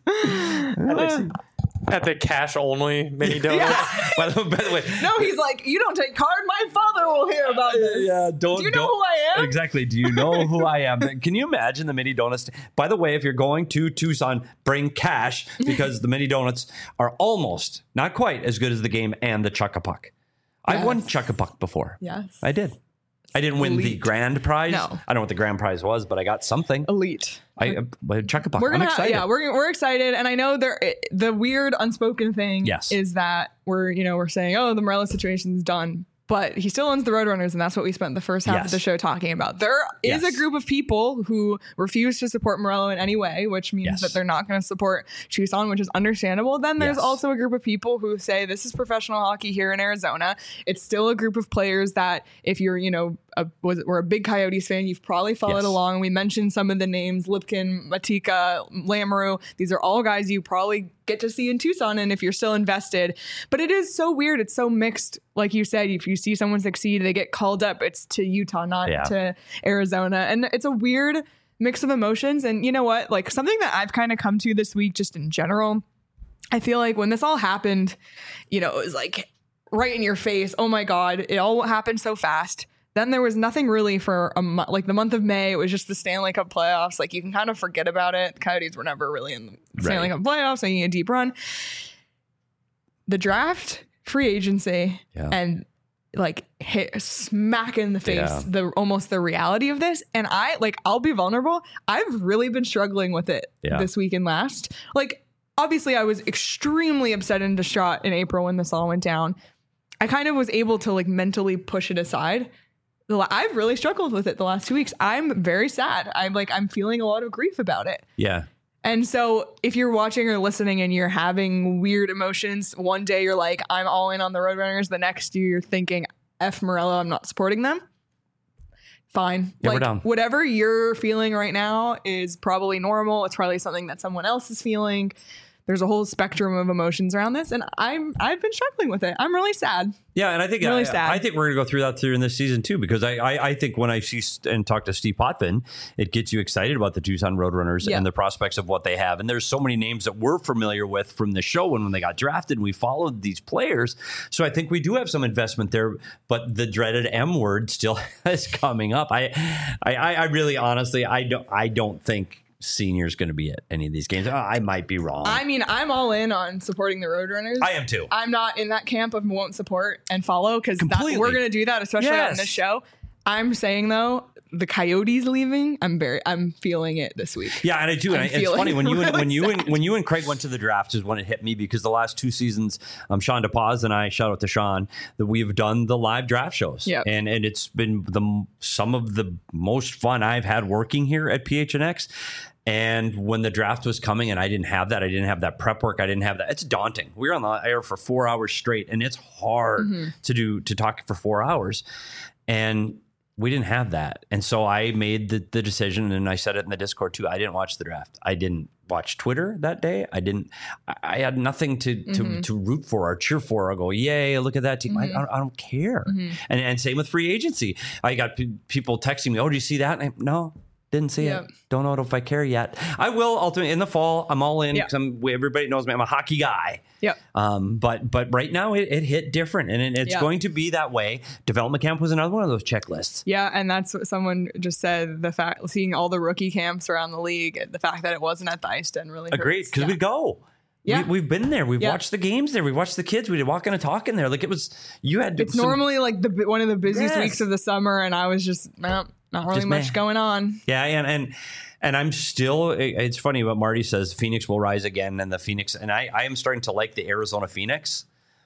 Speaker 4: At the cash only Mini Donuts.
Speaker 2: Yeah. By the way,
Speaker 1: no, he's like, you don't take card. My father will hear about this.
Speaker 2: Yeah, do you
Speaker 1: know who I am?
Speaker 2: Exactly. Do you know who I am? Can you imagine the Mini Donuts? By the way, if you're going to Tucson, bring cash because the Mini Donuts are almost, not quite as good as the game and the Chuck-a-Puck. I've won Chuck-a-Puck before.
Speaker 1: Yes,
Speaker 2: I did. I didn't win the grand prize.
Speaker 1: No.
Speaker 2: I don't know what the grand prize was, but I got something.
Speaker 1: Elite.
Speaker 2: Chuck-a-Puck. I'm excited.
Speaker 1: We're excited, and I know the weird unspoken thing is that we're saying, oh, the Morello situation's done, but he still owns the Roadrunners, and that's what we spent the first half of the show talking about. There is a group of people who refuse to support Morello in any way, which means that they're not going to support Tucson, which is understandable. Then there's also a group of people who say this is professional hockey here in Arizona. It's still a group of players that if you're, we're a big Coyotes fan, you've probably followed along. We mentioned some of the names, Lipkin, Matika, Lamoureux. These are all guys you probably get to see in Tucson, and if you're still invested. But it is so weird. It's so mixed. Like you said, if you see someone succeed, they get called up. It's to Utah, not to Arizona. And it's a weird mix of emotions. And you know what? Like something that I've kind of come to this week, just in general, I feel like when this all happened, it was like right in your face. Oh my God, it all happened so fast. Then there was nothing really for a month, like the month of May. It was just the Stanley Cup playoffs. Like you can kind of forget about it. The Coyotes were never really in the Stanley Cup playoffs, making a deep run. The draft, free agency, and like hit smack in the face almost the reality of this. And I'll be vulnerable. I've really been struggling with it this week and last. Like obviously, I was extremely upset and distraught in April when this all went down. I kind of was able to like mentally push it aside. I've really struggled with it the last 2 weeks. I'm very sad. I'm feeling a lot of grief about it.
Speaker 2: Yeah.
Speaker 1: And so if you're watching or listening and you're having weird emotions, one day you're like, I'm all in on the Roadrunners. The next year you're thinking, F Morello, I'm not supporting them. Fine.
Speaker 2: Yeah, we're down.
Speaker 1: Whatever you're feeling right now is probably normal. It's probably something that someone else is feeling. There's a whole spectrum of emotions around this, and I've been struggling with it. I'm really sad.
Speaker 2: Yeah, and I think
Speaker 1: really sad.
Speaker 2: I think we're going to go through that in this season too, because I think when I see and talk to Steve Potvin, it gets you excited about the Tucson Roadrunners and the prospects of what they have. And there's so many names that we're familiar with from the show when they got drafted. And we followed these players, so I think we do have some investment there. But the dreaded M word still is coming up. I really, honestly, I don't think Senior's going to be at any of these games. I might be wrong.
Speaker 1: I mean, I'm all in on supporting the Roadrunners.
Speaker 2: I am too.
Speaker 1: I'm not in that camp of won't support and follow because we're going to do that, especially on this show. I'm saying though, the Coyotes leaving, I'm feeling it this week.
Speaker 2: Yeah, and I do. And it's funny when you and Craig went to the draft is when it hit me, because the last 2 seasons, Sean DePaz and I, shout out to Sean, that we've done the live draft shows.
Speaker 1: Yep.
Speaker 2: And it's been some of the most fun I've had working here at PHNX. And when the draft was coming and I didn't have that prep work, I didn't have that. It's daunting. We were on the air for 4 hours straight, and it's hard to talk for 4 hours. And we didn't have that. And so I made the decision, and I said it in the Discord too. I didn't watch the draft. I didn't watch Twitter that day. I had nothing to root for or cheer for or go, yay, look at that team. I don't care. And same with free agency. I got people texting me, oh, do you see that? And no, didn't see it. Don't know if I care yet. I will ultimately in the fall. I'm all in because everybody knows me. I'm a hockey guy. Yep. But right now it hit different, and it's going to be that way. Development camp was another one of those checklists. Yeah,
Speaker 1: and that's what someone just said. The fact seeing all the rookie camps around the league, the fact that it wasn't at the ice den really hurts.
Speaker 2: Agreed, because we go. Yeah. We've been there. We've watched the games there. We watched the kids. We did walking and talking there. Like it's
Speaker 1: normally like one of the busiest weeks of the summer, and I was just not really much going on.
Speaker 2: Yeah, and I'm still. It's funny what Marty says. Phoenix will rise again, and the Phoenix. And I am starting to like the Arizona Phoenix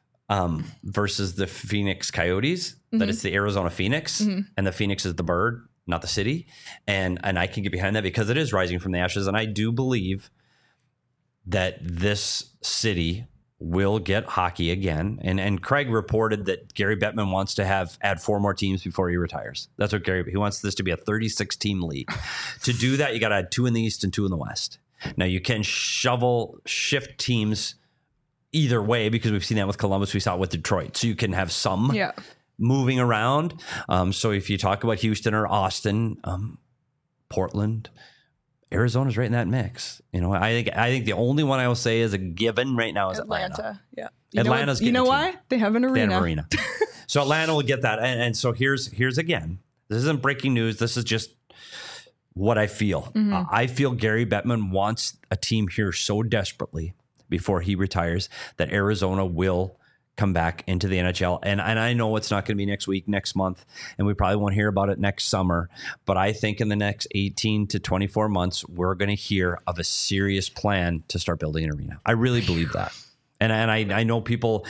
Speaker 2: versus the Phoenix Coyotes. That it's the Arizona Phoenix, and the Phoenix is the bird, not the city. And I can get behind that because it is rising from the ashes, and I do believe that this city will get hockey again. And Craig reported that Gary Bettman wants to add 4 more teams before he retires. That's what he wants this to be a 36-team league. To do that, you got to add 2 in the East and 2 in the West. Now you can shift teams either way, because we've seen that with Columbus. We saw it with Detroit. So you can have some moving around. So if you talk about Houston or Austin, Portland, Arizona's right in that mix. I think the only one I will say is a given right now is Atlanta.
Speaker 1: Yeah.
Speaker 2: Atlanta's
Speaker 1: you know why? They have an arena.
Speaker 2: They have an arena. So Atlanta will get that. And so here's again, this isn't breaking news. This is just what I feel. I feel Gary Bettman wants a team here so desperately before he retires that Arizona will come back into the NHL. And I know it's not going to be next week, next month, and we probably won't hear about it next summer. But I think in the next 18 to 24 months, we're going to hear of a serious plan to start building an arena. I really believe that. And I know people,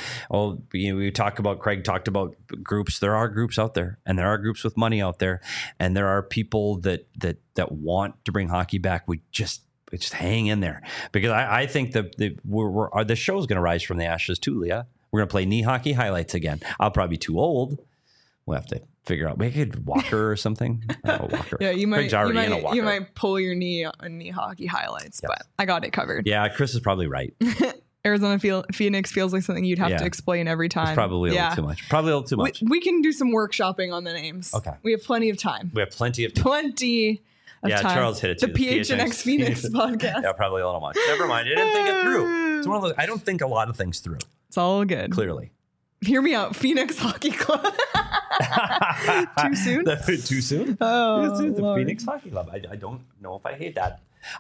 Speaker 2: Craig talked about groups. There are groups out there, and there are groups with money out there, and there are people that want to bring hockey back. We just hang in there, because I think the show's going to rise from the ashes too, Leah. We're going to play knee hockey highlights again. I'll probably be too old. We'll have to figure out. We could Walker or something. Walker.
Speaker 1: Yeah, you might pull your knee on knee hockey highlights, but I got it covered.
Speaker 2: Yeah, Chris is probably right.
Speaker 1: Arizona Phoenix feels like something you'd have to explain every time.
Speaker 2: It's probably a little too much.
Speaker 1: We can do some workshopping on the names. Okay. We have plenty of time.
Speaker 2: Time. Charles hit it too.
Speaker 1: The PHNX Phoenix podcast.
Speaker 2: Yeah, probably a little much. Never mind. I didn't think it through. It's one of those. I don't think a lot of things through.
Speaker 1: It's all good.
Speaker 2: Clearly.
Speaker 1: Hear me out. Phoenix Hockey Club. Too soon?
Speaker 2: Too soon?
Speaker 1: Oh,
Speaker 2: the Phoenix Hockey Club. I don't know if I hate that.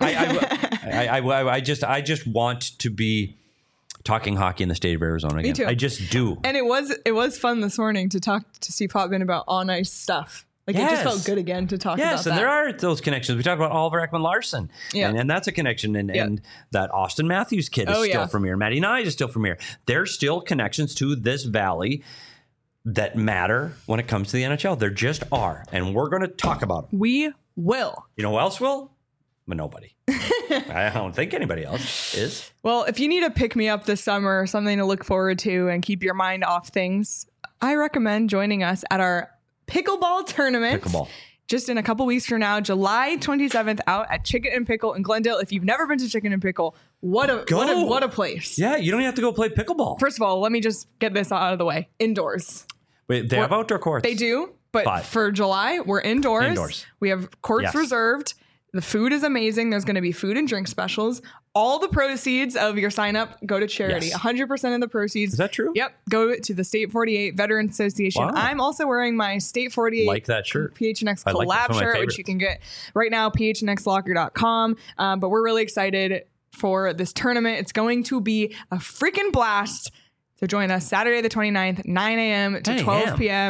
Speaker 2: I just want to be talking hockey in the state of Arizona again.
Speaker 1: Me too.
Speaker 2: I just do.
Speaker 1: And it was fun this morning to talk to Steve Hotman about on ice stuff. It just felt good again to talk about that.
Speaker 2: Yes, and there are those connections. We talked about Oliver Ekman-Larsson, and that's a connection. And that Austin Matthews kid is still from here. Matty Nye is still from here. There's still connections to this valley that matter when it comes to the NHL. There just are. And we're going to talk about them.
Speaker 1: We will.
Speaker 2: You know who else will? But nobody. I don't think anybody else is.
Speaker 1: Well, if you need a pick-me-up this summer, something to look forward to and keep your mind off things, I recommend joining us at our pickleball tournament. Just in a couple weeks from now, July 27th, out at Chicken and Pickle in Glendale. If you've never been to Chicken and Pickle, what a place.
Speaker 2: Yeah, you don't have to go play pickleball.
Speaker 1: First of all, let me just get this out of the way. Indoors.
Speaker 2: Wait, they have outdoor courts.
Speaker 1: They do, but for July, we're indoors. We have courts reserved. The food is amazing. There's going to be food and drink specials. All the proceeds of your sign up go to charity. 100% of the proceeds.
Speaker 2: Is that true?
Speaker 1: Yep. Go to the State 48 Veterans Association. Wow. I'm also wearing my State 48
Speaker 2: like that shirt.
Speaker 1: PHNX collab shirt, which you can get right now, phnxlocker.com. But we're really excited for this tournament. It's going to be a freaking blast. So join us Saturday the 29th, 9 a.m. to 12 p.m.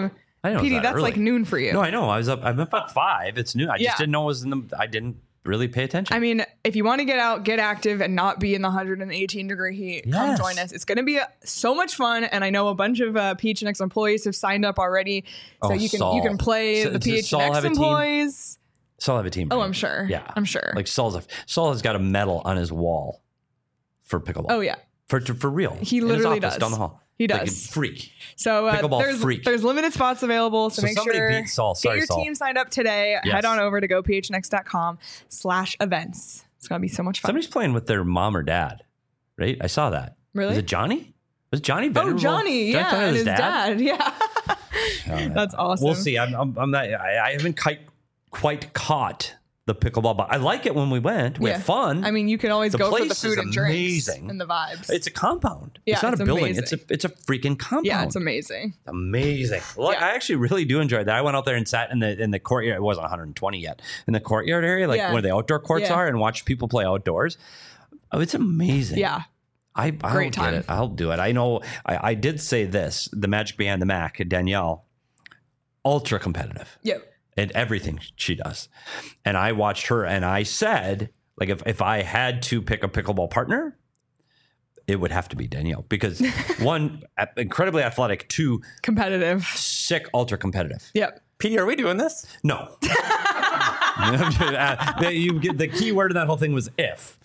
Speaker 2: I know.
Speaker 1: PD, that's
Speaker 2: early.
Speaker 1: like noon for you.
Speaker 2: No, I know. I'm up at 5. It's noon. I just didn't know it was I didn't really pay attention.
Speaker 1: I mean, if you want to get out, get active, and not be in the 118 degree heat, come join us. It's going to be so much fun, and I know a bunch of PHNX employees have signed up already, so you can play the PHNX employees.
Speaker 2: Saul have a team.
Speaker 1: Oh,
Speaker 2: right?
Speaker 1: I'm sure.
Speaker 2: Yeah,
Speaker 1: I'm sure.
Speaker 2: Like Saul has got a medal on his wall for pickleball.
Speaker 1: Oh yeah,
Speaker 2: for real.
Speaker 1: He literally
Speaker 2: does
Speaker 1: down
Speaker 2: the hall.
Speaker 1: He does.
Speaker 2: Like a freak.
Speaker 1: So there's limited spots available. So make sure
Speaker 2: beat Saul.
Speaker 1: Get your team signed up today. Yes. Head on over to gophnx.com/events. It's going to be so much fun.
Speaker 2: Somebody's playing with their mom or dad, right? I saw that.
Speaker 1: Really?
Speaker 2: Was it Johnny? Was Johnny Venerable?
Speaker 1: Oh, Johnny. Yeah, and his dad. Yeah. That's awesome.
Speaker 2: We'll see. I'm not, I haven't quite caught the pickleball, but I like it when we went. We had fun.
Speaker 1: I mean, you can always go for the food and drinks and the vibes.
Speaker 2: It's a compound.
Speaker 1: Yeah,
Speaker 2: it's not a building.
Speaker 1: Amazing.
Speaker 2: It's a freaking compound.
Speaker 1: Yeah, it's amazing.
Speaker 2: Amazing. Well, I actually really do enjoy that. I went out there and sat in the courtyard. It wasn't 120 yet. In the courtyard area, where the outdoor courts are, and watch people play outdoors. Oh, it's amazing.
Speaker 1: Yeah.
Speaker 2: I'll
Speaker 1: Great time.
Speaker 2: Get it. I'll do it. I know. I did say this. The Magic Behind the Mac, Danielle, ultra competitive.
Speaker 1: Yep.
Speaker 2: And everything she does. And I watched her and I said, like, if I had to pick a pickleball partner, it would have to be Danielle. Because one, incredibly athletic, two,
Speaker 1: competitive,
Speaker 2: sick, ultra competitive.
Speaker 1: Yep.
Speaker 4: PD, are we doing this?
Speaker 2: No. The key word in that whole thing was if.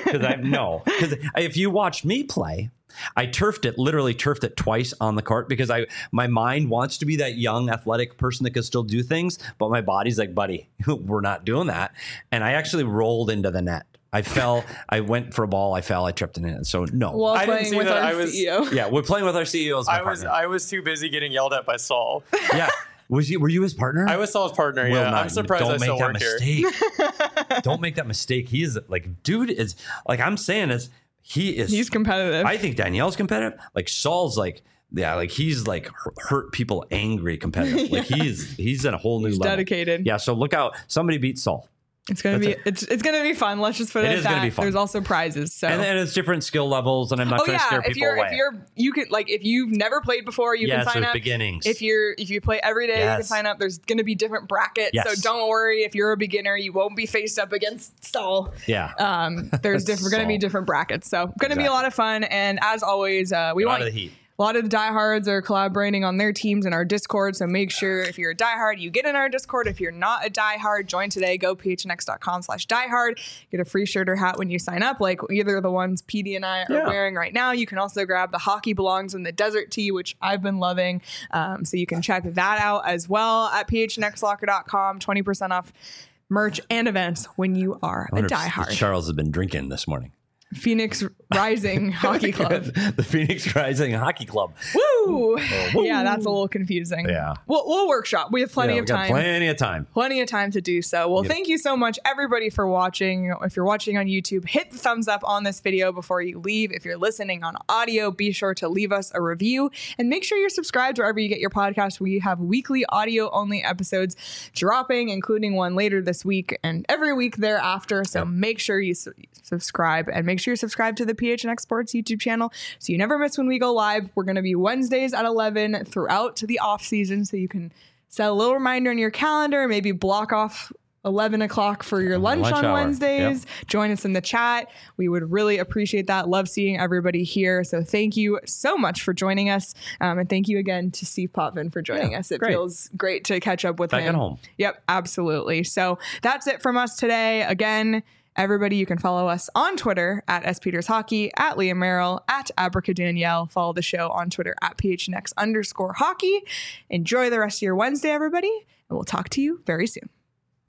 Speaker 2: Because if you watched me play, I literally turfed it twice on the court because my mind wants to be that young athletic person that can still do things, but my body's like, buddy, we're not doing that. And I actually rolled into the net. I fell. I went for a ball. I fell. I tripped in it. So no.
Speaker 1: Well, I didn't see with that. Our CEO.
Speaker 2: Yeah, we're playing with our CEO as my partner.
Speaker 4: I was too busy getting yelled at by Saul.
Speaker 2: Yeah. Were you his partner?
Speaker 4: I was Saul's partner. Yeah. I'm surprised I still work here.
Speaker 2: Don't make that mistake. He is dude is like I'm saying is. He's
Speaker 1: competitive.
Speaker 2: I think Danielle's competitive. Like Saul's he's hurt people angry competitive. Like he's in a whole new level.
Speaker 1: Dedicated.
Speaker 2: Yeah. So look out. Somebody beat Saul.
Speaker 1: It's gonna be fun. Let's just put it at that. Gonna be fun. There's also prizes. So
Speaker 2: and it's different skill levels, and I'm not trying to scare people away.
Speaker 1: If you've never played before, you can sign up.
Speaker 2: Beginnings.
Speaker 1: If you play every day, you can sign up. There's gonna be different brackets. Yes. So don't worry if you're a beginner, you won't be faced up against Saul.
Speaker 2: Yeah.
Speaker 1: There's gonna be different brackets. So gonna be a lot of fun. And as always, we want
Speaker 2: the heat.
Speaker 1: A lot of the diehards are collaborating on their teams in our Discord, so make sure if you're a diehard, you get in our Discord. If you're not a diehard, join today. Go phnx.com/diehard. Get a free shirt or hat when you sign up, like either of the ones PD and I are wearing right now. You can also grab the Hockey Belongs in the Desert tee, which I've been loving. So you can check that out as well at phnxlocker.com. 20% off merch and events when you are a diehard.
Speaker 2: Charles has been drinking this morning.
Speaker 1: Phoenix Rising Hockey Club.
Speaker 2: The Phoenix Rising Hockey Club.
Speaker 1: Woo! Yeah, that's a little confusing.
Speaker 2: Yeah.
Speaker 1: We'll workshop. We have plenty of time.
Speaker 2: Plenty of time.
Speaker 1: Plenty of time to do so. Well, thank you so much, everybody, for watching. If you're watching on YouTube, hit the thumbs up on this video before you leave. If you're listening on audio, be sure to leave us a review and make sure you're subscribed wherever you get your podcast. We have weekly audio-only episodes dropping, including one later this week and every week thereafter. So make sure you subscribe and make sure you're subscribed to the PHNX Sports YouTube channel so you never miss when we go live. We're going to be Wednesdays at 11 throughout to the off season, so you can set a little reminder in your calendar, maybe block off 11 o'clock for your lunch on Wednesdays. Yep. Join us in the chat. We would really appreciate that. Love seeing everybody here. So thank you so much for joining us. And thank you again to Steve Potvin for joining us. It feels great to catch up with him.
Speaker 2: Back at home.
Speaker 1: Yep, absolutely. So that's it from us today. Again, everybody, you can follow us on Twitter at SPetersHockey, at Liam Merrill, at Abracadanielle. Follow the show on Twitter at PHNX_hockey. Enjoy the rest of your Wednesday, everybody, and we'll talk to you very soon.